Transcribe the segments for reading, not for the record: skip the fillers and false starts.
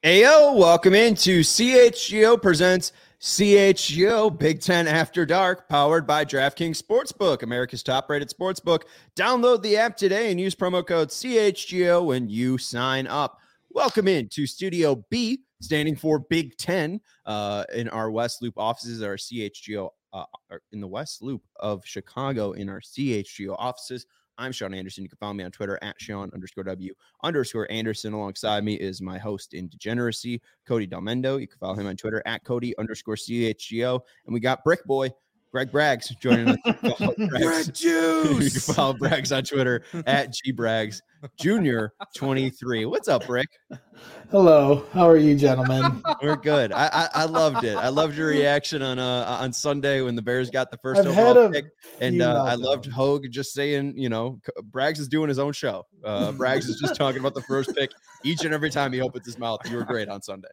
Ayo, welcome into CHGO presents CHGO Big Ten After Dark, powered by DraftKings Sportsbook, America's top-rated sportsbook. Download the app today and use promo code CHGO when you sign up. Welcome into Studio B, standing for Big Ten, in our West Loop offices, our CHGO, in the West Loop of Chicago in our CHGO offices. I'm Sean Anderson. You can follow me on Twitter at Sean_W_Anderson. Alongside me is my host in Degeneracy, Cody Delmendo. You can follow him on Twitter at Cody_CHGO. And we got Brick Boy, Greg Braggs, joining us. Greg Juice. You can follow Braggs on Twitter at GBraggs Junior 23. What's up, Brick? Hello. How are you, gentlemen? We're good. I loved it. I loved your reaction on Sunday when the Bears got the first overall pick, and I loved Hogue just saying, Braggs is doing his own show. Braggs is just talking about the first pick each and every time he opens his mouth. You were great on Sunday.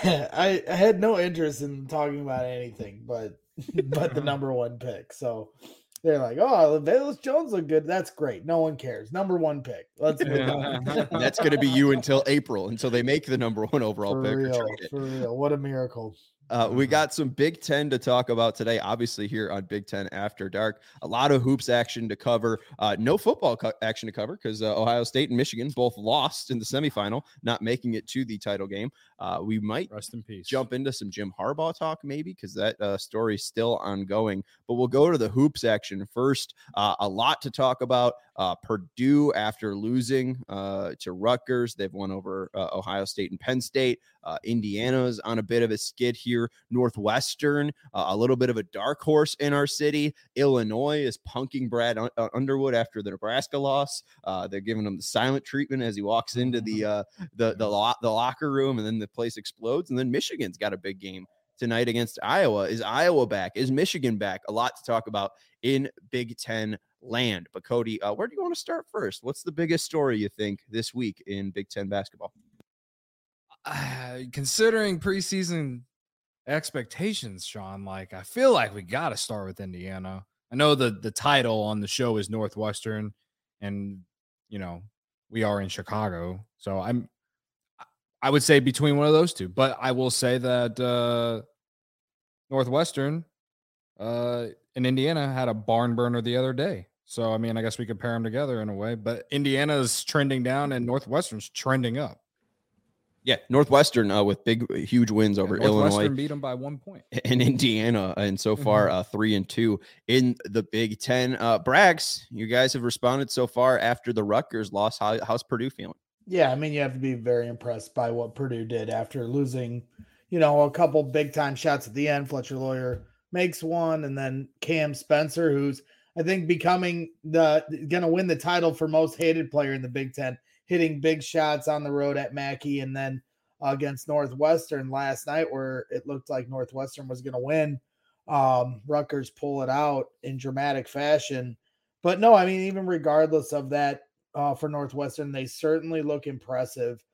I had no interest in talking about anything, but the number one pick. So they're like, "Oh, Velus Jones look good." That's great. No one cares. Number one pick. Let's move on. That's going to be you until April, until they make the number one overall pick. For real. What a miracle. We got some Big Ten to talk about today, obviously here on Big Ten After Dark. A lot of hoops action to cover. No football action to cover because Ohio State and Michigan both lost in the semifinal, not making it to the title game. We might rest in peace. Jump into some Jim Harbaugh talk maybe because that story is still ongoing. But we'll go to the hoops action first. A lot to talk about. Purdue, after losing to Rutgers, they've won over Ohio State and Penn State. Indiana's on a bit of a skid here. Northwestern, a little bit of a dark horse in our city. Illinois is punking Brad Underwood after the Nebraska loss. They're giving him the silent treatment as he walks into the locker room, and then the place explodes. And then Michigan's got a big game tonight against Iowa. Is Iowa back? Is Michigan back? A lot to talk about in Big Ten land. But Cody, where do you want to start first? What's the biggest story you think this week in Big Ten basketball? Considering preseason expectations, Sean, I feel like we got to start with Indiana. I know the title on the show is Northwestern, and we are in Chicago, so I would say between one of those two. But I will say that Northwestern and Indiana had a barn burner the other day. So, I guess we could pair them together in a way. But Indiana's trending down and Northwestern's trending up. Yeah, Northwestern with huge wins over Illinois. Northwestern beat them by 1 point. And Indiana, and so far 3-2 in the Big Ten. Braggs, you guys have responded so far after the Rutgers loss. How's Purdue feeling? Yeah, you have to be very impressed by what Purdue did after losing, a couple big-time shots at the end. Fletcher Lawyer makes one, and then Cam Spencer, who's, I think, becoming going to win the title for most hated player in the Big Ten, hitting big shots on the road at Mackey, and then against Northwestern last night where it looked like Northwestern was going to win. Rutgers pull it out in dramatic fashion. But no, even regardless of that, for Northwestern, they certainly look impressive.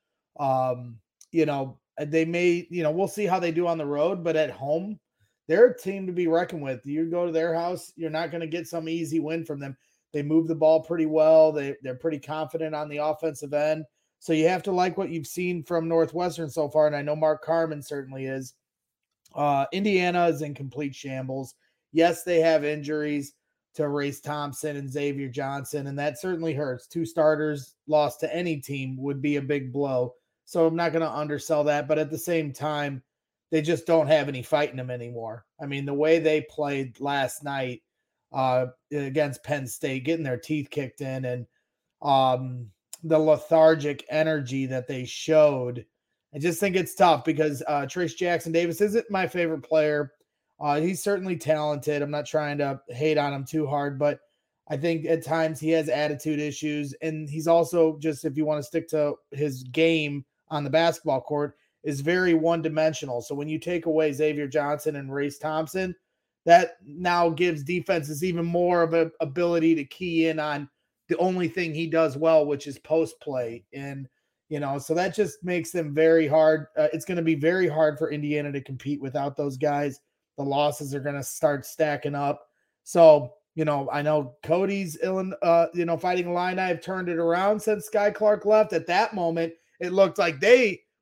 They may, we'll see how they do on the road, but at home, they're a team to be reckoned with. You go to their house, you're not going to get some easy win from them. They move the ball pretty well. They're pretty confident on the offensive end. So you have to like what you've seen from Northwestern so far, and I know Mark Carman certainly is. Indiana is in complete shambles. Yes, they have injuries to Race Thompson and Xavier Johnson, and that certainly hurts. 2 starters lost to any team would be a big blow. So I'm not going to undersell that, but at the same time, they just don't have any fight in them anymore. The way they played last night against Penn State, getting their teeth kicked in, and the lethargic energy that they showed, I just think it's tough because Trace Jackson Davis isn't my favorite player. He's certainly talented. I'm not trying to hate on him too hard, but I think at times he has attitude issues, and he's also, just if you want to stick to his game on the basketball court, is very one-dimensional. So when you take away Xavier Johnson and Race Thompson, that now gives defenses even more of an ability to key in on the only thing he does well, which is post play. And, so that just makes them very hard. It's going to be very hard for Indiana to compete without those guys. The losses are going to start stacking up. So, I know Cody's Fighting Illini have turned it around since Sky Clark left. At that moment, it looked like they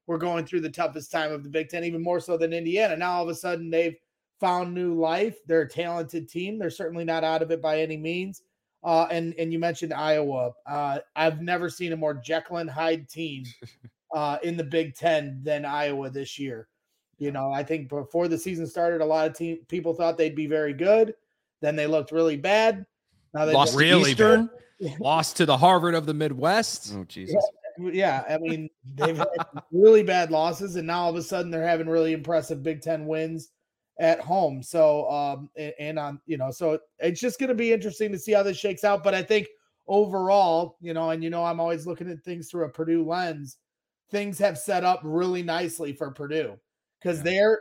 were going through the toughest time of the Big Ten, even more so than Indiana. Now all of a sudden they've found new life. They're a talented team. They're certainly not out of it by any means. And you mentioned Iowa. I've never seen a more Jekyll and Hyde team in the Big Ten than Iowa this year. You know, I think before the season started, a lot of people thought they'd be very good. Then they looked really bad. Now they lost really Eastern, lost to the Harvard of the Midwest. Oh, Jesus. Yeah, I mean, they've had really bad losses, and now all of a sudden they're having really impressive Big Ten wins at home. So, so it's just going to be interesting to see how this shakes out. But I think overall, I'm always looking at things through a Purdue lens. Things have set up really nicely for Purdue because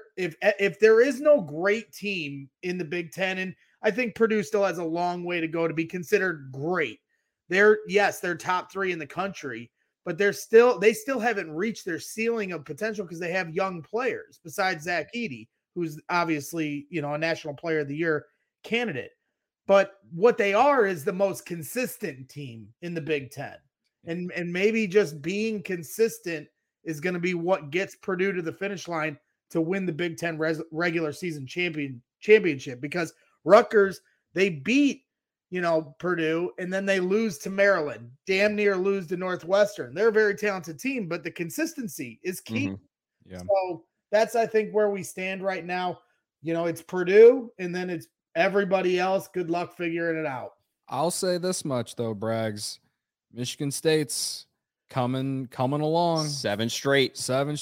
if there is no great team in the Big Ten, and I think Purdue still has a long way to go to be considered great. They're top 3 in the country, but they still haven't reached their ceiling of potential because they have young players besides Zach Edey, who's obviously, a National Player of the Year candidate. But what they are is the most consistent team in the Big Ten. And maybe just being consistent is going to be what gets Purdue to the finish line to win the Big Ten regular season championship, because Rutgers, they beat, Purdue, and then they lose to Maryland, damn near lose to Northwestern. They're a very talented team, but the consistency is key. Mm-hmm. Yeah. So that's, I think, where we stand right now. It's Purdue, and then it's everybody else. Good luck figuring it out. I'll say this much, though, Braggs. Michigan State's coming along. 7 straight.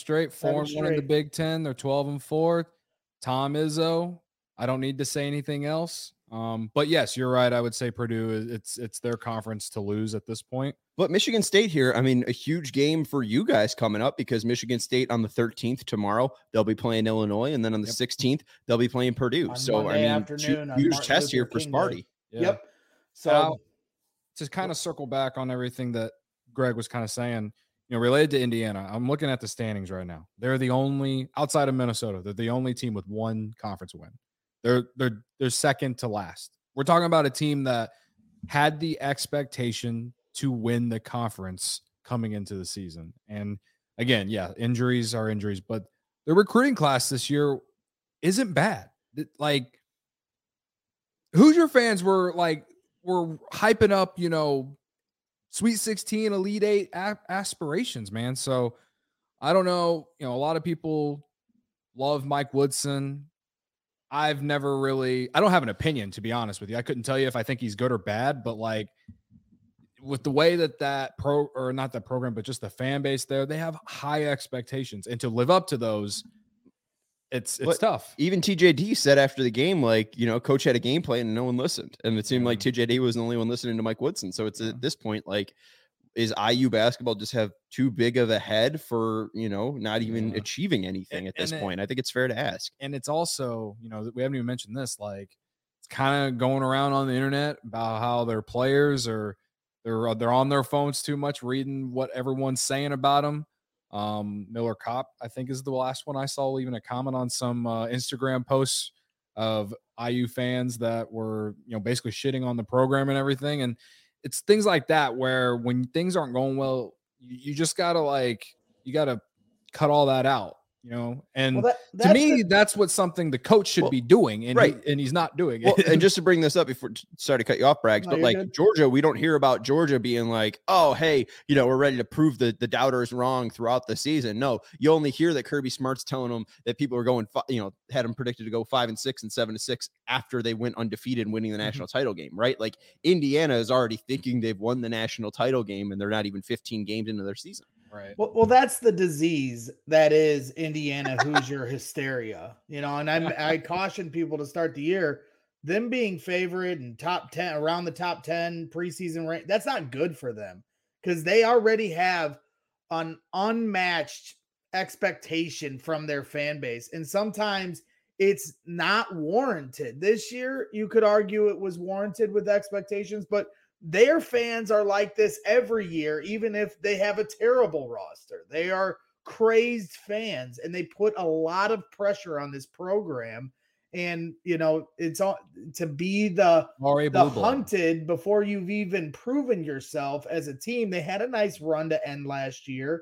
4-1 in the Big Ten. They're 12-4. Tom Izzo. I don't need to say anything else. But yes, you're right. I would say Purdue, it's their conference to lose at this point. But Michigan State here, I mean, a huge game for you guys coming up, because Michigan State on the 13th tomorrow, they'll be playing Illinois, and then on the 16th, they'll be playing Purdue. On so, Monday I mean, huge test here for Sparty. Yeah. Yep. So now, to kind of circle back on everything that Greg was kind of saying, related to Indiana, I'm looking at the standings right now. They're the only, outside of Minnesota, they're the only team with 1 conference win. They're second to last. We're talking about a team that had the expectation to win the conference coming into the season. And again, injuries are injuries, but the recruiting class this year isn't bad. Like, Hoosier fans were hyping up, Sweet 16, Elite 8 aspirations, man. So I don't know. A lot of people love Mike Woodson. I don't have an opinion, to be honest with you. I couldn't tell you if I think he's good or bad, but with the way that not that program, but just the fan base there, they have high expectations, and to live up to those, it's tough. Even TJD said after the game, coach had a game plan and no one listened. And it seemed like TJD was the only one listening to Mike Woodson. So it's at this point, is IU basketball just have too big of a head for, not even achieving anything at this point? I think it's fair to ask. And it's also, we haven't even mentioned this, it's kind of going around on the internet about how their players they're on their phones too much, reading what everyone's saying about them. Miller Kopp, I think, is the last one I saw leaving a comment on some Instagram posts of IU fans that were, basically shitting on the program and everything. And it's things like that where when things aren't going well, you just gotta you gotta cut all that out, And to me, that's what something the coach should be doing, and right. And he's not doing it. Well, and just to bring this up before, sorry to cut you off, Braggs, but good. Georgia, we don't hear about Georgia being oh, hey, we're ready to prove the doubters wrong throughout the season. No, you only hear that Kirby Smart's telling them that people are going, had them predicted to go 5-6 and 7-6 after they went undefeated, winning the national title game, right? Indiana is already thinking they've won the national title game, and they're not even 15 games into their season. Right. Well, that's the disease that is Indiana Hoosier hysteria, and I caution people to start the year, them being favorite and top 10 around the top 10 preseason rank. That's not good for them because they already have an unmatched expectation from their fan base. And sometimes it's not warranted. This year, you could argue it was warranted with expectations, but their fans are like this every year, even if they have a terrible roster. They are crazed fans, and they put a lot of pressure on this program. And, it's all to be the hunted before you've even proven yourself as a team. They had a nice run to end last year,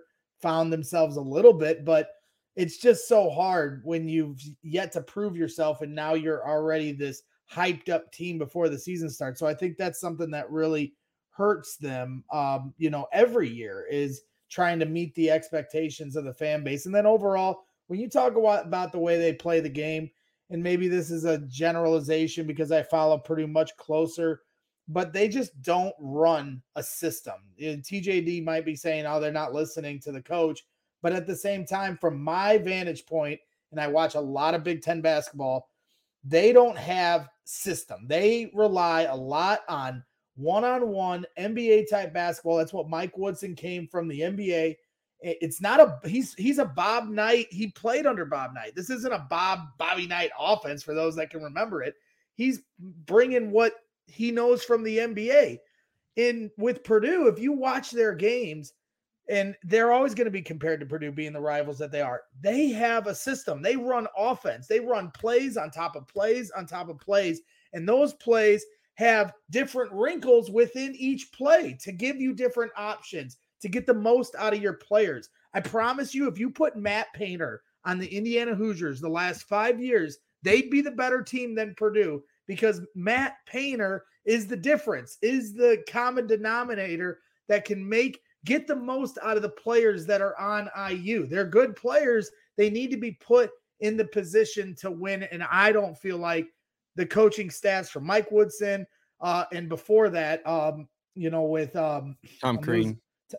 found themselves a little bit, but it's just so hard when you've yet to prove yourself and now you're already this hyped up team before the season starts. So I think that's something that really hurts them, every year, is trying to meet the expectations of the fan base. And then overall, when you talk about the way they play the game, and maybe this is a generalization because I follow Purdue much closer, but they just don't run a system. TJD might be saying, oh, they're not listening to the coach. But at the same time, from my vantage point, and I watch a lot of Big Ten basketball, they don't have system. They rely a lot on one-on-one NBA type basketball. That's what Mike Woodson came from, the NBA. It's not he's a Bob Knight. He played under Bob Knight. This isn't a Bobby Knight offense for those that can remember it. He's bringing what he knows from the NBA. With Purdue, if you watch their games, and they're always going to be compared to Purdue being the rivals that they are, they have a system. They run offense. They run plays on top of plays on top of plays. And those plays have different wrinkles within each play to give you different options to get the most out of your players. I promise you, if you put Matt Painter on the Indiana Hoosiers the last 5 years, they'd be the better team than Purdue, because Matt Painter is the difference, is the common denominator that can get the most out of the players that are on IU. They're good players. They need to be put in the position to win. And I don't feel like the coaching staffs from Mike Woodson and before that, with Tom Crean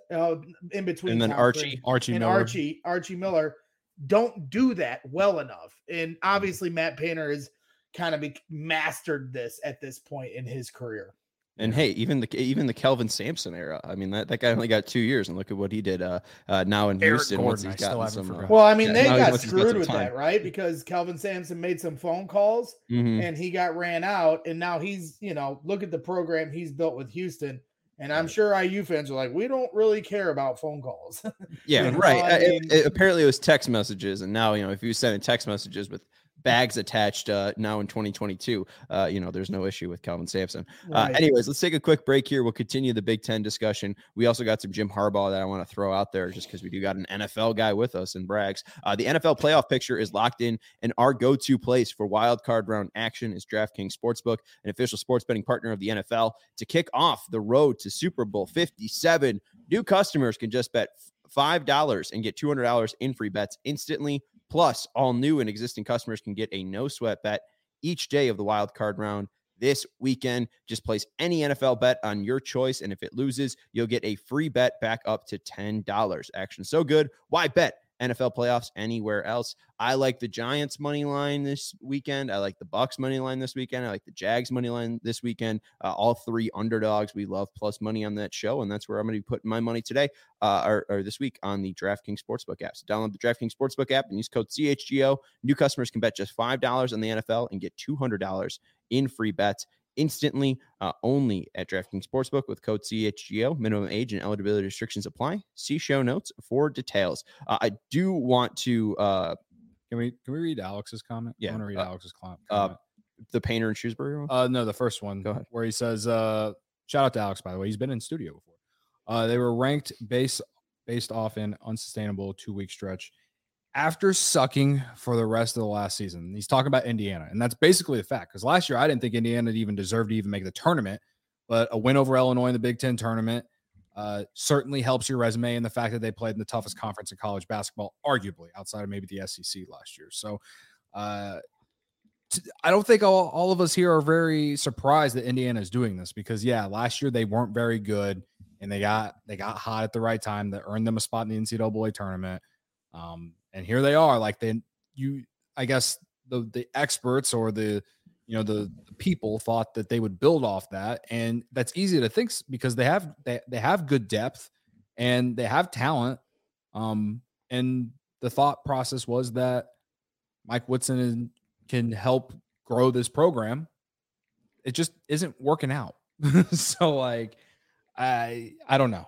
in between, and then Tom Archie Miller. Archie Miller don't do that well enough. And obviously Matt Painter has kind of mastered this at this point in his career. And hey, even the Kelvin Sampson era. I mean, that guy only got 2 years, and look at what he did now in Eric Houston. Gordon, Once he's gotten some. Well, I mean, they now got once he's got screwed some with time. that, right? Because Kelvin Sampson made some phone calls and he got ran out, and now he's, look at the program he's built with Houston. And I'm sure IU fans are like, we don't really care about phone calls. Yeah, right. Apparently it was text messages, and now if you send text messages with bags attached now in 2022, there's no issue with Kelvin Sampson. Right. Anyways, let's take a quick break here. We'll continue the Big Ten discussion. We also got some Jim Harbaugh that I want to throw out there, just because we do got an NFL guy with us in Braggs. The NFL playoff picture is locked in, and our go-to place for wild card round action is DraftKings Sportsbook, an official sports betting partner of the NFL. To kick off the road to Super Bowl 57, new customers can just bet $5 and get $200 in free bets instantly. Plus, all new and existing customers can get a no-sweat bet each day of the wild card round this weekend. Just place any NFL bet on your choice, and if it loses, you'll get a free bet back up to $10. Action so good, why bet NFL playoffs anywhere else? I like the Giants money line this weekend. I like the Bucks money line this weekend. I like the Jags money line this weekend. All three underdogs. We love plus money on that show, and that's where I'm going to be putting my money today or this week on the DraftKings Sportsbook app. So download the DraftKings Sportsbook app and use code CHGO. New customers can bet just $5 on the NFL and get $200 in free bets instantly, only at DraftKings Sportsbook with code CHGO. Minimum age and eligibility restrictions apply. See show notes for details. I do want to Can we read Alex's comment? Yeah. I want to read Alex's comment. the Painter and Shrewsbury one? No, the first one. Go ahead. Where he says, shout out to Alex, by the way. He's been in studio before. They were ranked based off an unsustainable 2-week stretch after sucking for the rest of the last season. He's talking about Indiana, and that's basically the fact, because last year I didn't think Indiana even deserved to even make the tournament, but a win over Illinois in the Big Ten tournament certainly helps your resume, and the fact that they played in the toughest conference in college basketball, arguably, outside of maybe the SEC last year. So I don't think all of us here are very surprised that Indiana is doing this, because last year they weren't very good, and they got hot at the right time that earned them a spot in the NCAA tournament. And here they are, I guess the experts or the people thought that they would build off that. And that's easy to think, because they have good depth and they have talent. And the thought process was that Mike Woodson can help grow this program. It just isn't working out. So I don't know.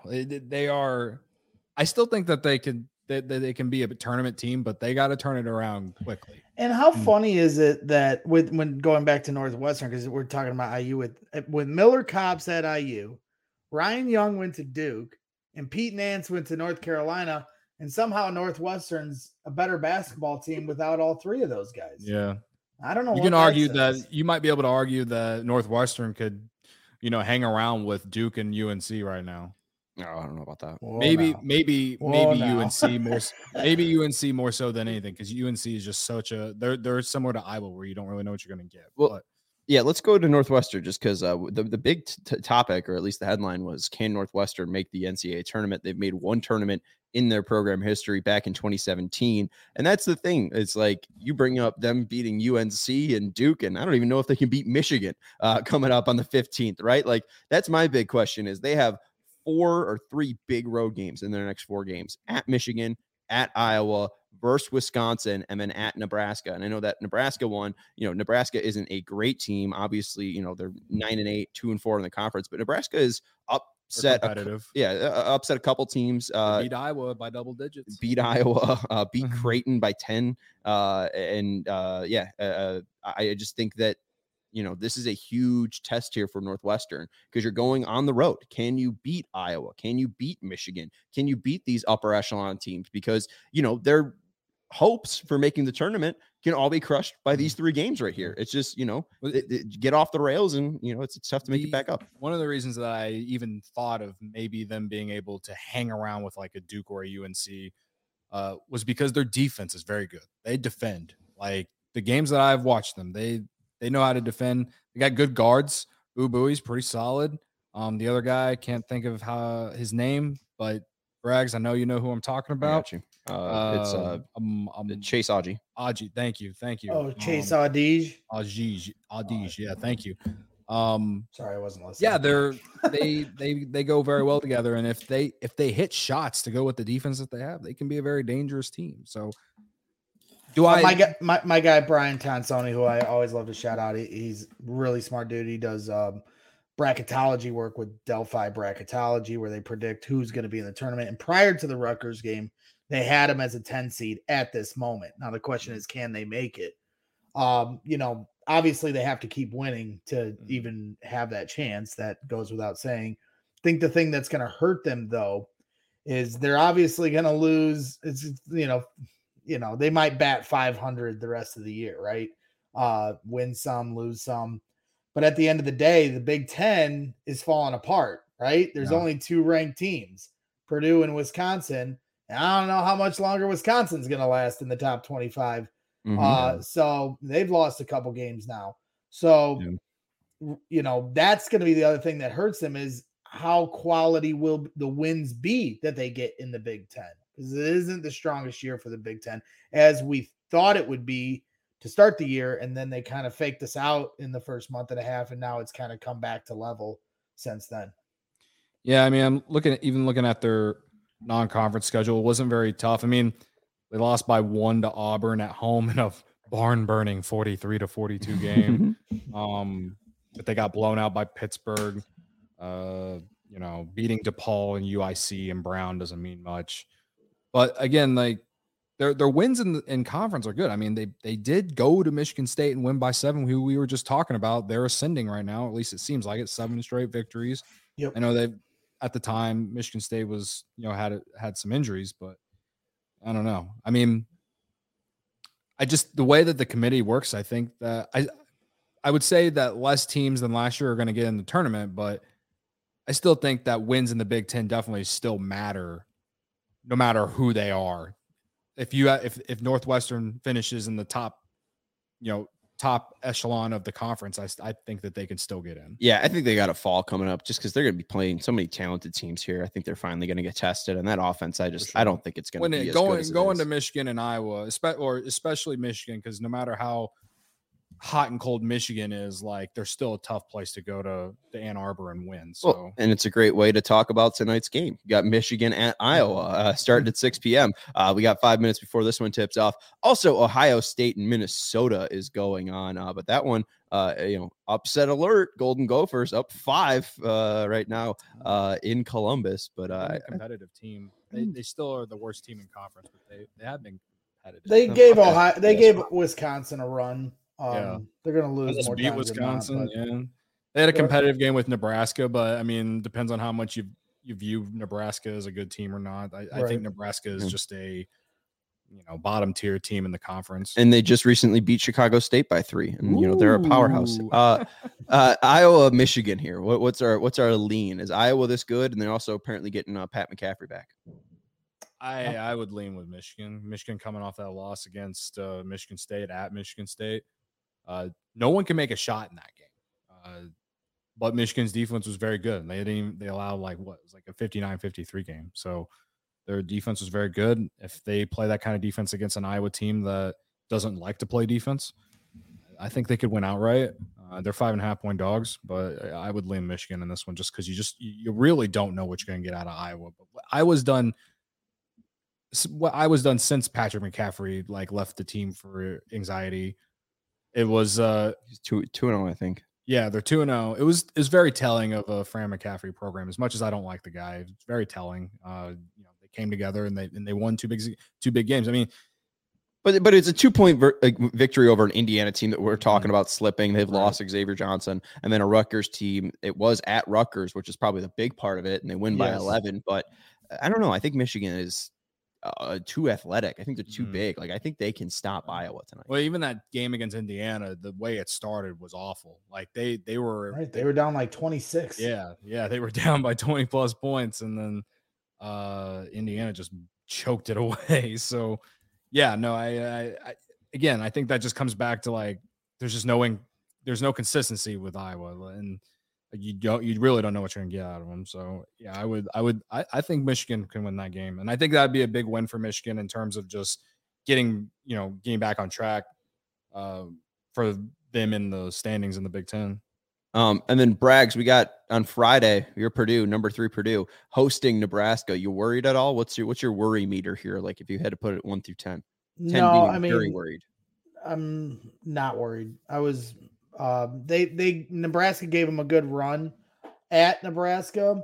I still think that they can be a tournament team, but they got to turn it around quickly. And how funny is it that when going back to Northwestern, because we're talking about IU with Miller Koppes at IU, Ryan Young went to Duke, and Pete Nance went to North Carolina. And somehow Northwestern's a better basketball team without all three of those guys. Yeah. I don't know. You can argue that you might be able to argue that Northwestern could, hang around with Duke and UNC right now. No, I don't know about that. Maybe UNC more. Maybe UNC more so than anything, because UNC is just such a. They're similar to Iowa, where you don't really know what you're going to get. Well, yeah, let's go to Northwestern just because the big topic, or at least the headline, was, can Northwestern make the NCAA tournament? They've made one tournament in their program history back in 2017, and that's the thing. It's like you bring up them beating UNC and Duke, and I don't even know if they can beat Michigan coming up on the 15th, right? Like, that's my big question. Is they have 4 or 3 big road games in their next 4 games: at Michigan, at Iowa, versus Wisconsin, and then at Nebraska. And I know that Nebraska won. Nebraska isn't a great team. Obviously, they're 9-8, 2-4 in the conference, but Nebraska is upset. Upset a couple teams. Beat Iowa by double digits. Beat Iowa. Beat Creighton by 10. I just think that this is a huge test here for Northwestern, because you're going on the road. Can you beat Iowa? Can you beat Michigan? Can you beat these upper echelon teams? Because, their hopes for making the tournament can all be crushed by these 3 games right here. It's just, get off the rails, and, it's tough to make it back up. One of the reasons that I even thought of maybe them being able to hang around with like a Duke or a UNC was because their defense is very good. They defend. Like, the games that I've watched them, they know how to defend. They got good guards. Ubui's pretty solid. The other guy, I can't think of his name, but Braggs, I know you know who I'm talking about. It's Chase Augie. Augie, thank you. Oh, Chase Audige. Audige, yeah, thank you. Sorry, I wasn't listening. Yeah, they go very well together, and if they hit shots to go with the defense that they have, they can be a very dangerous team. So. My guy Brian Tonsoni, who I always love to shout out, he's really smart dude. He does bracketology work with Delphi Bracketology, where they predict who's going to be in the tournament. And prior to the Rutgers game, they had him as a 10 seed at this moment. Now the question is, can they make it? Obviously they have to keep winning to even have that chance. That goes without saying. I think the thing that's going to hurt them, though, is they're obviously going to lose. It's they might bat 500 the rest of the year, right? Win some, lose some. But at the end of the day, the Big Ten is falling apart, right? There's only 2 ranked teams, Purdue and Wisconsin. And I don't know how much longer Wisconsin's going to last in the top 25. So they've lost a couple games now. So, that's going to be the other thing that hurts them, is how quality will the wins be that they get in the Big Ten. Because it isn't the strongest year for the Big Ten as we thought it would be to start the year. And then they kind of faked us out in the first month and a half. And now it's kind of come back to level since then. Yeah. I mean, I'm looking at their non-conference schedule. It wasn't very tough. I mean, they lost by 1 to Auburn at home in a barn burning 43-42 game. But they got blown out by Pittsburgh. Beating DePaul and UIC and Brown doesn't mean much. But again, like their wins in conference are good. I mean, they did go to Michigan State and win by 7, who we were just talking about. They're ascending right now. At least it seems like it. 7 straight victories. Yep. I know at the time Michigan State was, had some injuries, but I don't know. I mean, the way that the committee works, I think that I would say that less teams than last year are going to get in the tournament, but I still think that wins in the Big Ten definitely still matter, no matter who they are. If Northwestern finishes in the top echelon of the conference, I think that they can still get in. Yeah, I think they got a fall coming up just because they're going to be playing so many talented teams here. I think they're finally going to get tested, and that offense, I don't think it's going to be as good as going to Michigan and Iowa, especially Michigan, because no matter how hot and cold Michigan is, like, they're still a tough place to go to Ann Arbor and win. So, and it's a great way to talk about tonight's game. You got Michigan at Iowa starting at 6 p.m. We got 5 minutes before this one tips off. Also, Ohio State and Minnesota is going on, but that one, upset alert. Golden Gophers up 5 right now in Columbus, but a competitive team. They still are the worst team in conference, but they have been competitive. They gave Wisconsin a run. They're going to lose more beat Wisconsin. They had a competitive game with Nebraska, but I mean, depends on how much you you view Nebraska as a good team or not. I Right. think Nebraska is just a bottom tier team in the conference. And they just recently beat Chicago State by 3, and they're a powerhouse. Ooh. Iowa, Michigan here. What's our lean? Is Iowa this good? And they're also apparently getting Pat McCaffrey back. I would lean with Michigan. Michigan coming off that loss against Michigan State at Michigan State. No one can make a shot in that game. But Michigan's defense was very good. They allowed it was like a 59-53 game. So their defense was very good. If they play that kind of defense against an Iowa team that doesn't like to play defense, I think they could win outright. They're 5.5-point dogs, but I would lean Michigan in this one just because you really don't know what you're going to get out of Iowa. But what I was done since Patrick McCaffrey left the team for anxiety. It was 2-0, I think. Yeah, they're 2-0. It was very telling of a Fran McCaffrey program. As much as I don't like the guy, it's very telling. They came together and they won two big games. I mean, but it's a 2-point victory over an Indiana team that we're talking about slipping. They've lost Xavier Johnson, and then a Rutgers team. It was at Rutgers, which is probably the big part of it, and they win by 11. But I don't know. I think Michigan is too athletic. I think they're too big. I think they can stop Iowa tonight. Well, even that game against Indiana, the way it started was awful. They were right. They were down 26. Yeah, they were down by 20 plus points, and then Indiana just choked it away. So, yeah, no, I think that just comes back to there's no consistency with Iowa, and you really don't know what you're gonna get out of them. So yeah, I think Michigan can win that game, and I think that'd be a big win for Michigan in terms of just getting back on track for them in the standings in the Big Ten. And then Braggs, we got on Friday, your Purdue, number 3 Purdue, hosting Nebraska. You worried at all? What's your worry meter here? If you had to put it 1 through 10. 10 no, being very worried. I'm not worried. I was Nebraska gave them a good run at Nebraska.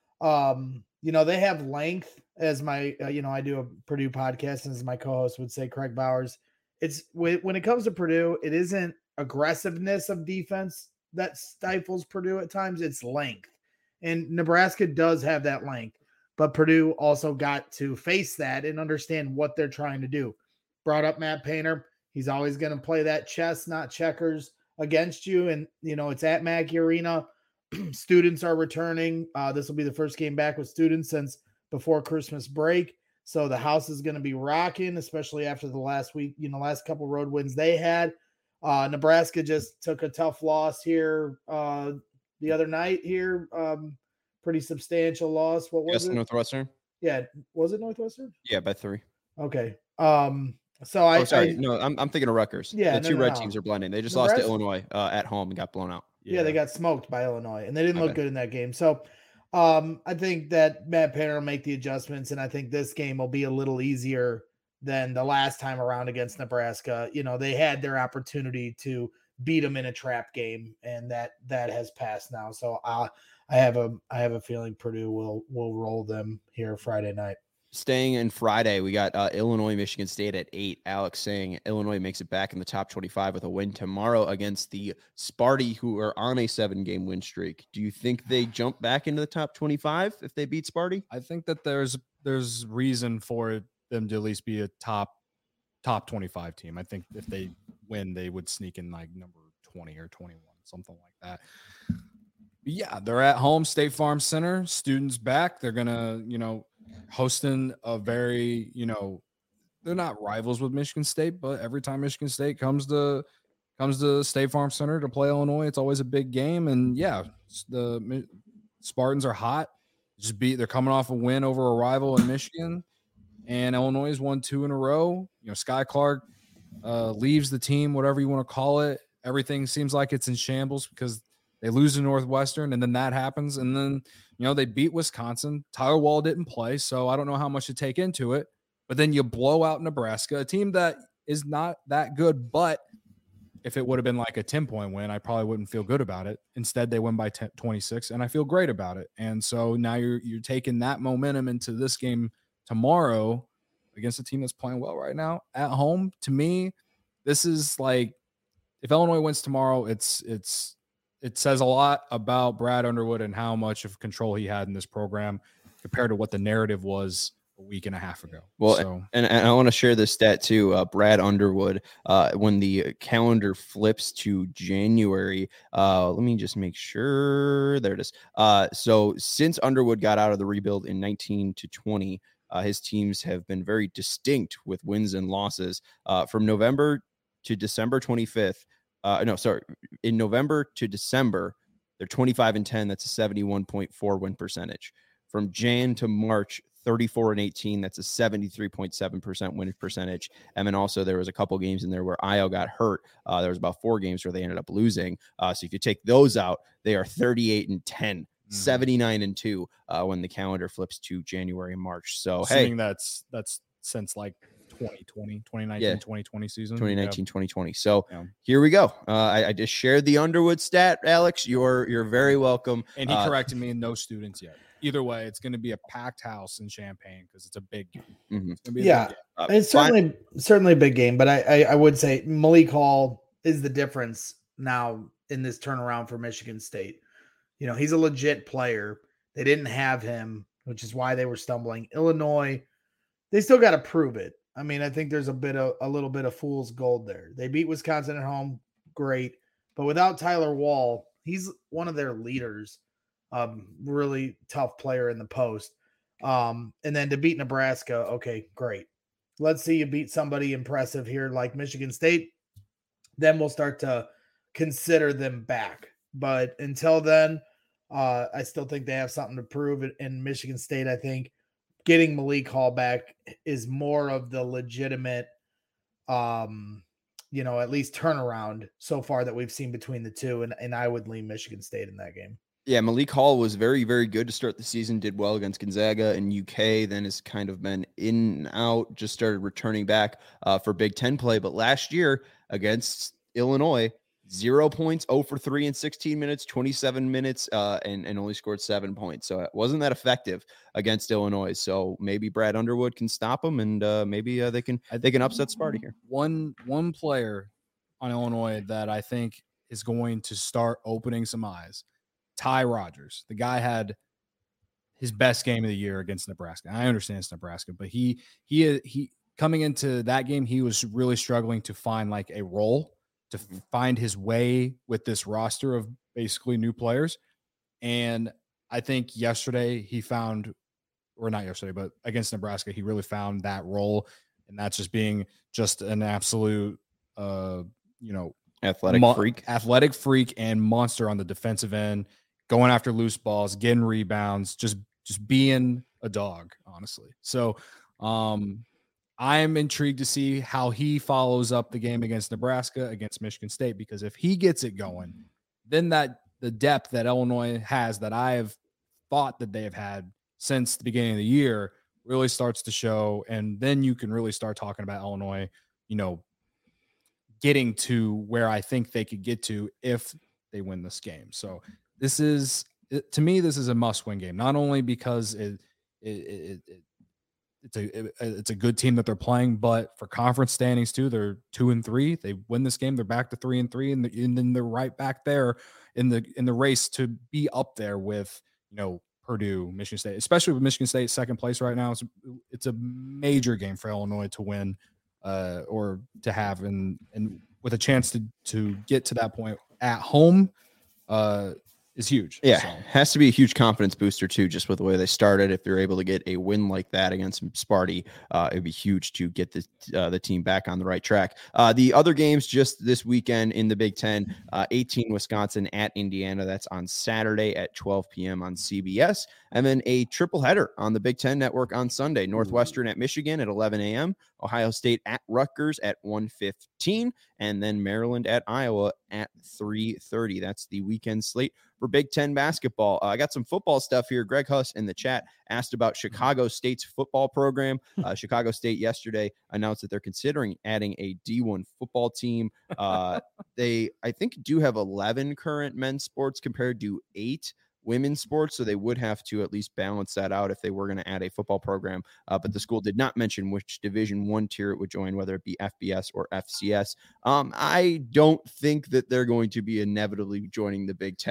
They have length, as my I do a Purdue podcast, and as my co-host would say, Craig Bowers. It's when it comes to Purdue, it isn't aggressiveness of defense that stifles Purdue at times. It's length, and Nebraska does have that length, but Purdue also got to face that and understand what they're trying to do. Brought up Matt Painter. He's always going to play that chess, not checkers, against you. And, it's at Mackey Arena. Students are returning. This will be the first game back with students since before Christmas break. So the house is going to be rocking, especially after the last week, last couple road wins they had. Nebraska just took a tough loss here the other night here. Pretty substantial loss. What was it? Northwestern? Yeah. Was it Northwestern? Yeah, by 3. Okay. So I'm thinking of Rutgers. Yeah, the two red teams are blending. They just lost to Illinois at home and got blown out. Yeah, they got smoked by Illinois, and they didn't look good in that game. So I think that Matt Painter will make the adjustments, and I think this game will be a little easier than the last time around against Nebraska. They had their opportunity to beat them in a trap game, and that has passed now. So I have a feeling Purdue will roll them here Friday night. Staying in Friday, we got Illinois, Michigan State at 8. Alex saying Illinois makes it back in the top 25 with a win tomorrow against the Sparty, who are on a 7-game win streak. Do you think they jump back into the top 25 if they beat Sparty? I think that there's reason for them to at least be a top 25 team. I think if they win, they would sneak in number 20 or 21, something like that. But yeah, they're at home, State Farm Center. Students back. They're gonna, hosting a very, they're not rivals with Michigan State, but every time Michigan State comes to State Farm Center to play Illinois, it's always a big game. And yeah, the Spartans are hot. They're coming off a win over a rival in Michigan, and Illinois has won 2 in a row. Sky Clark leaves the team, whatever you want to call it. Everything seems like it's in shambles because they lose to Northwestern, and then that happens. And then, they beat Wisconsin. Tyler Wall didn't play, so I don't know how much to take into it. But then you blow out Nebraska, a team that is not that good. But if it would have been like a 10-point win, I probably wouldn't feel good about it. Instead, they win by 26, and I feel great about it. And so now you're taking that momentum into this game tomorrow against a team that's playing well right now at home. To me, this is if Illinois wins tomorrow, it says a lot about Brad Underwood and how much of control he had in this program. compared to what the narrative was a week and a half ago. Well, so and I want to share this stat too. Brad Underwood, when the calendar flips to January, let me just make sure. There it is. So since Underwood got out of the rebuild in 19 to 20, his teams have been very distinct with wins and losses. From November to December 25th. In November to December, they're 25-10. That's a 71.4 win percentage. From Jan to March, 34-18. That's a 73.7% win percentage. And then also there was a couple games in there where Io got hurt. There was about 4 games where they ended up losing. So if you take those out, they are 38-10, 79-2 when the calendar flips to January and March. So assuming that's since like 2020 season. 2020. So here we go. I just shared the Underwood stat, Alex. You're very welcome. And he corrected me, no students yet. Either way, it's going to be a packed house in Champaign because it's a big game. Mm-hmm. It's gonna be a big game. It's certainly a big game, but I would say Malik Hall is the difference now in this turnaround for Michigan State. You know, he's a legit player. They didn't have him, which is why they were stumbling. Illinois, they still got to prove it. I mean, I think there's a little bit of fool's gold there. They beat Wisconsin at home, great, but without Tyler Wall, he's one of their leaders. Really tough player in the post. And then to beat Nebraska, okay, great. Let's see you beat somebody impressive here like Michigan State. Then we'll start to consider them back. But until then, I still think they have something to prove in Michigan State. I think getting Malik Hall back is more of the legitimate, at least turnaround so far that we've seen between the two. And I would lean Michigan State in that game. Yeah, Malik Hall was very, very good to start the season, did well against Gonzaga and UK, then has kind of been in and out, just started returning back for Big Ten play. But last year against Illinois, 0 points, 0 for 3 in 16 minutes, 27 minutes, and only scored 7 points. So it wasn't that effective against Illinois. So maybe Brad Underwood can stop them, and maybe they can upset Sparty here. One player on Illinois that I think is going to start opening some eyes. Ty Rodgers. The guy had his best game of the year against Nebraska. I understand it's Nebraska, but he coming into that game, he was really struggling to find like a role, to find his way with this roster of basically new players. And I think yesterday he found, or not yesterday, but against Nebraska, he really found that role. And that's just being just an absolute, athletic freak and monster on the defensive end, going after loose balls, getting rebounds, just being a dog, honestly. So I'm intrigued to see how he follows up the game against Nebraska, against Michigan State, because if he gets it going, then the depth that Illinois has, that I have thought that they have had since the beginning of the year, really starts to show. And then you can really start talking about Illinois, getting to where I think they could get to if they win this game. So to me, this is a must-win game, not only because it's a good team that they're playing, but for conference standings too. They're 2-3. They win this game, they're back to 3-3, and then they're right back there in the race to be up there with Purdue, Michigan State, especially with Michigan State second place right now. It's a major game for Illinois to win, or to have, and with a chance to get to that point at home is huge. Yeah, has to be a huge confidence booster too, just with the way they started. If they're able to get a win like that against Sparty, it'd be huge to get the team back on the right track. The other games just this weekend in the Big Ten, 18 Wisconsin at Indiana. That's on Saturday at 12 p.m. on CBS. And then a triple header on the Big Ten Network on Sunday. Northwestern at Michigan at 11 a.m. Ohio State at Rutgers at 1:15, and then Maryland at Iowa at 3:30. That's the weekend slate for Big Ten basketball. I got some football stuff here. Greg Huss in the chat asked about Chicago State's football program. Chicago State yesterday announced that they're considering adding a D1 football team. They, I think, do have 11 current men's sports compared to 8 women's sports, so they would have to at least balance that out if they were going to add a football program. But the school did not mention which Division I tier it would join, whether it be FBS or FCS. I don't think that they're going to be inevitably joining the Big Ten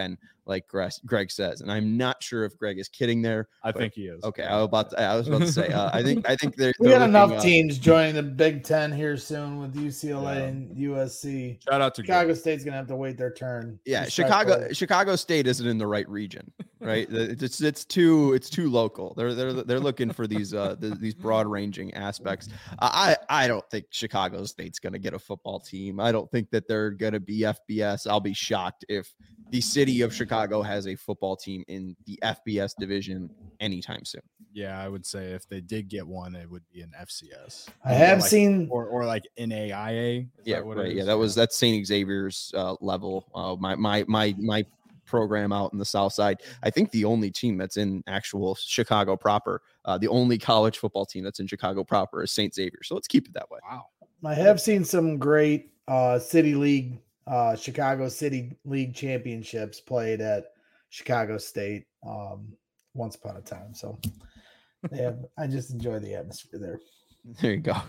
like Greg says, and I'm not sure if Greg is kidding there. I think he is. Okay, I was about to say. I think they're We got looking, enough teams joining the Big Ten here soon with UCLA and USC. Shout out to Chicago State's gonna have to wait their turn. Yeah, Chicago State isn't in the right region, right? It's too local. They're looking for these broad ranging aspects. I don't think Chicago State's going to get a football team. I don't think that they're going to be FBS. I'll be shocked if the city of Chicago has a football team in the FBS division anytime soon. Yeah, I would say if they did get one, it would be an FCS. I have seen or like NAIA. Yeah, right. Yeah, that's St. Xavier's level. My program out in the South Side. I think the only team that's in actual Chicago proper, the only college football team that's in Chicago proper is St. Xavier. So let's keep it that way. Wow. I have seen some great city league, Chicago City League championships played at Chicago State once upon a time. So I just enjoy the atmosphere there. There you go.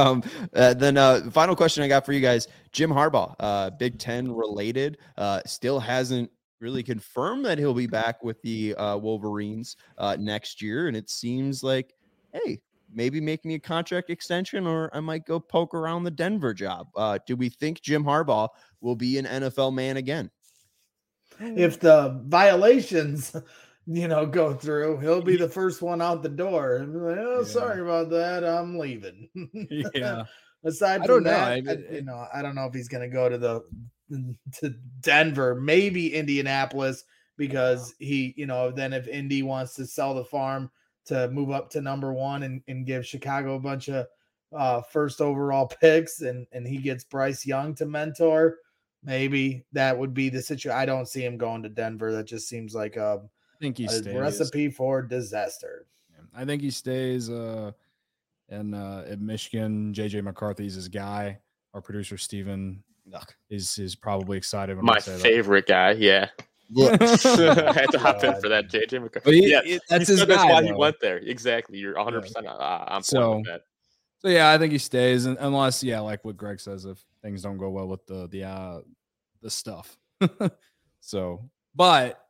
Then final question I got for you guys. Jim Harbaugh, Big Ten related, still hasn't really confirmed that he'll be back with the Wolverines next year. And it seems like, hey, maybe make me a contract extension or I might go poke around the Denver job. Do we think Jim Harbaugh will be an NFL man again? If the violations, go through, he'll be the first one out the door. And be like, oh, sorry about that. I'm leaving. Yeah. Aside from that, I don't know if he's going to go to Denver, maybe Indianapolis, because he, then if Indy wants to sell the farm to move up to number one and give Chicago a bunch of first overall picks and he gets Bryce Young to mentor, maybe that would be the situation. I don't see him going to Denver. That just seems like a recipe for disaster. I think he stays in Michigan. JJ McCarthy's his guy. Our producer Steven is probably excited when my favorite guy. Yeah. I had to hop in for that, JJ McCarthy. That's his guy. That's why he went there. Exactly. You're 100% on point with that. So yeah, I think he stays, unless like what Greg says, if things don't go well with the stuff. So, but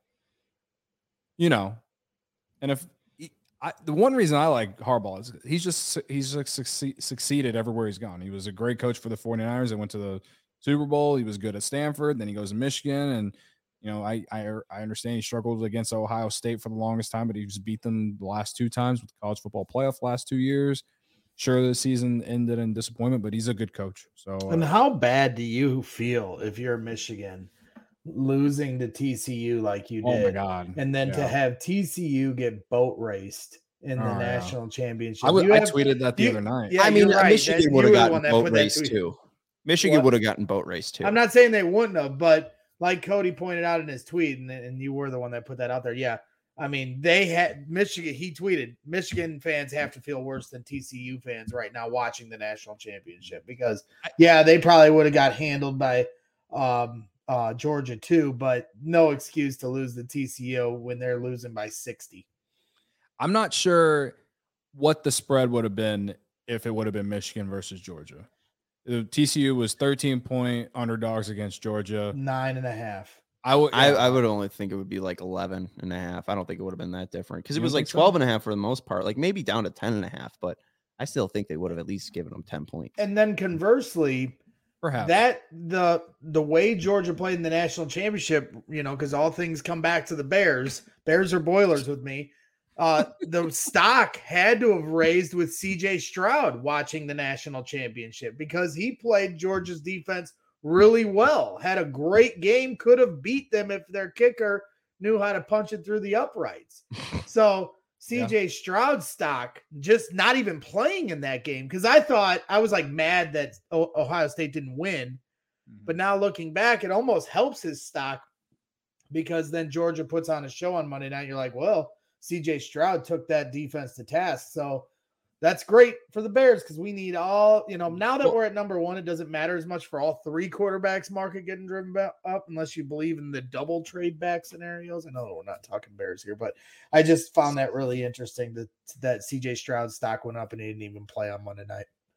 and if the one reason I like Harbaugh is he's succeeded everywhere he's gone. He was a great coach for the 49ers and went to the Super Bowl. He was good at Stanford. Then he goes to Michigan, and I understand he struggled against Ohio State for the longest time, but he's beat them the last two times with the college football playoff last 2 years. Sure, the season ended in disappointment, but he's a good coach. So, and how bad do you feel if you're Michigan losing to TCU like you did? Oh my God! And then to have TCU get boat raced in the national championship. I tweeted that the other night. Yeah, I mean, Michigan would have gotten boat raced too. Michigan would have gotten boat raced too. I'm not saying they wouldn't have, but like Cody pointed out in his tweet, and you were the one that put that out there. Yeah. I mean, they had Michigan. He tweeted, Michigan fans have to feel worse than TCU fans right now watching the national championship because, they probably would have got handled by Georgia too, but no excuse to lose the TCU when they're losing by 60. I'm not sure what the spread would have been if it would have been Michigan versus Georgia. The TCU was 13-point underdogs against Georgia. 9.5. I would only think it would be like 11.5. I don't think it would have been that different because it was like 12.5 for the most part, like maybe down to 10.5, but I still think they would have at least given them 10 points. And then conversely, perhaps that the way Georgia played in the national championship, because all things come back to the Bears. Bears are Boilers with me. The stock had to have raised with CJ Stroud watching the national championship because he played Georgia's defense really well, had a great game, could have beat them if their kicker knew how to punch it through the uprights. So CJ Stroud stock just not even playing in that game because I was like mad that Ohio State didn't win. But now looking back, it almost helps his stock because then Georgia puts on a show on Monday night. You're like, well, CJ Stroud took that defense to task. So that's great for the Bears because we need all, now that we're at number one, it doesn't matter as much for all three quarterbacks market getting driven up unless you believe in the double trade back scenarios. I know we're not talking Bears here, but I just found that really interesting that CJ Stroud stock went up and he didn't even play on Monday night.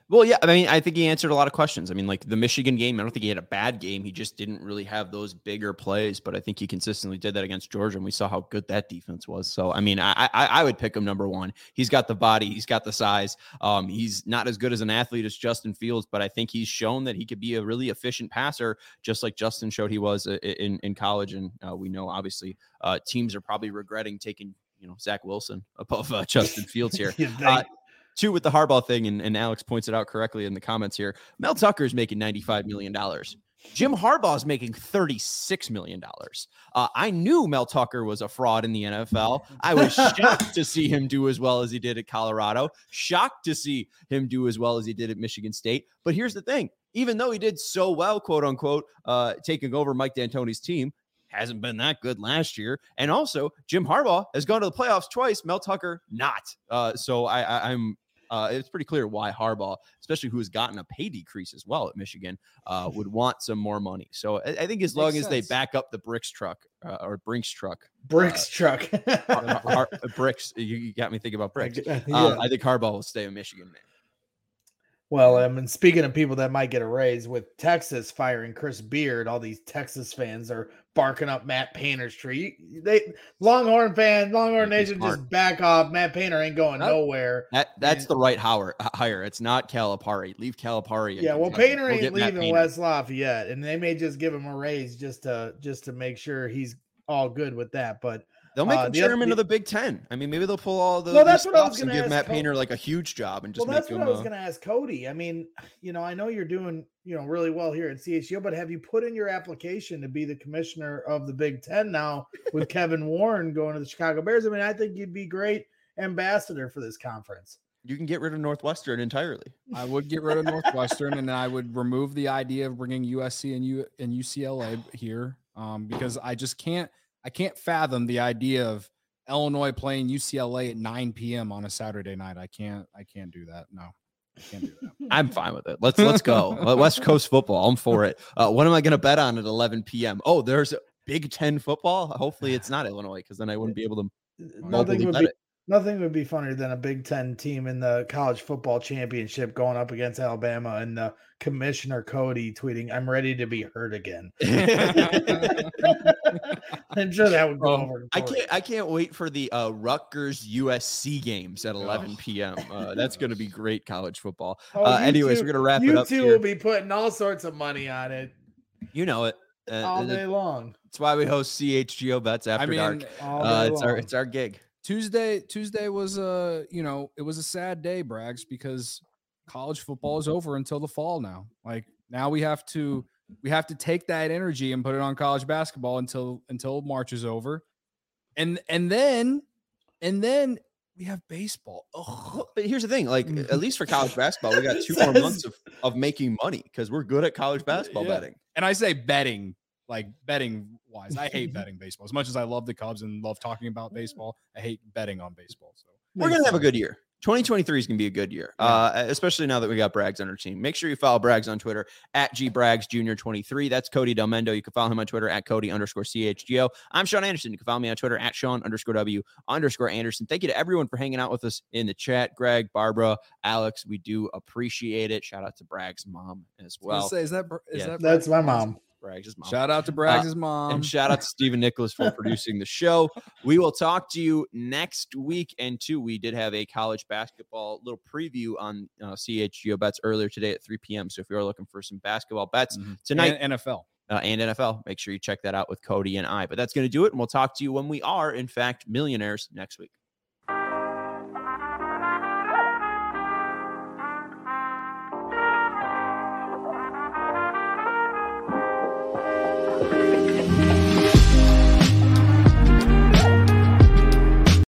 Well, yeah, I mean, I think he answered a lot of questions. I mean, like the Michigan game, I don't think he had a bad game. He just didn't really have those bigger plays, but I think he consistently did that against Georgia, and we saw how good that defense was. So, I mean, I would pick him number one. He's got the body, he's got the size. He's not as good as an athlete as Justin Fields, but I think he's shown that he could be a really efficient passer, just like Justin showed he was in college. And we know, obviously, teams are probably regretting taking, Zach Wilson above Justin Fields here. Two, with the Harbaugh thing, and Alex points it out correctly in the comments here, Mel Tucker is making $95 million. Jim Harbaugh is making $36 million. I knew Mel Tucker was a fraud in the NFL. I was shocked to see him do as well as he did at Colorado, shocked to see him do as well as he did at Michigan State. But here's the thing. Even though he did so well, quote unquote, taking over Mike D'Antoni's team, hasn't been that good last year. And also, Jim Harbaugh has gone to the playoffs twice, Mel Tucker not. So I'm it's pretty clear why Harbaugh, especially who has gotten a pay decrease as well at Michigan, would want some more money. So I think as long as they back up the Brinks truck, Bricks, you got me thinking about bricks. I think Harbaugh will stay in Michigan, man. Well, I mean, speaking of people that might get a raise, with Texas firing Chris Beard, all these Texas fans are barking up Matt Painter's tree. Longhorn Nation, just back off. Matt Painter ain't going nowhere. That's the right hire. It's not Calipari. Leave Calipari. Yeah, well, Painter ain't leaving West Lafayette, and they may just give him a raise just to make sure he's all good with that. But they'll make him chairman of the Big Ten. I mean, maybe they'll pull all the stops and give Matt Painter like a huge job and just that's what I was going to ask Cody. I mean, I know you're doing, really well here at CHGO, but have you put in your application to be the commissioner of the Big Ten now with Kevin Warren going to the Chicago Bears? I mean, I think you'd be great ambassador for this conference. You can get rid of Northwestern entirely. I would get rid of Northwestern, and I would remove the idea of bringing USC and UCLA here because I just can't. I can't fathom the idea of Illinois playing UCLA at 9 p.m. on a Saturday night. I can't do that. No, I can't do that. I'm fine with it. Let's go. West Coast football. I'm for it. What am I going to bet on at 11 p.m.? Oh, there's Big Ten football. Hopefully it's not Illinois, because then I wouldn't be able to. Nothing would be funnier than a Big Ten team in the college football championship going up against Alabama and the commissioner Cody tweeting, "I'm ready to be hurt again." I'm sure that would go over. I can't wait for the Rutgers USC games at 11 p.m. That's going to be great college football. Anyways, we're going to wrap it up. You two will be putting all sorts of money on it. You know it. All day long. That's why we host CHGO Bets After Dark. It's our gig. Tuesday was it was a sad day, Braggs, because college football is over until the fall now. Like now we have to take that energy and put it on college basketball until March is over. And then we have baseball. Oh, but here's the thing, like at least for college basketball, we got 2 more months of making money because we're good at college basketball betting. And I say betting, like betting wise. I hate betting baseball. As much as I love the Cubs and love talking about baseball, I hate betting on baseball. So we're gonna have a good year. 2023 is going to be a good year, especially now that we got Braggs on our team. Make sure you follow Braggs on Twitter at GBraggsJr23. That's Cody Del Mendo. You can follow him on Twitter at Cody_CHGO. I'm Sean Anderson. You can follow me on Twitter at Sean_W_Anderson. Thank you to everyone for hanging out with us in the chat. Greg, Barbara, Alex, we do appreciate it. Shout out to Braggs' mom as well. That's my mom. Braggs' mom. Shout out to Braggs' mom. And shout out to Stephen Nicholas for producing the show. We will talk to you next week. And we did have a college basketball little preview on CHGO Bets earlier today at 3 p.m. So if you're looking for some basketball bets tonight. And NFL. And NFL, make sure you check that out with Cody and I. But that's going to do it. And we'll talk to you when we are, in fact, millionaires next week.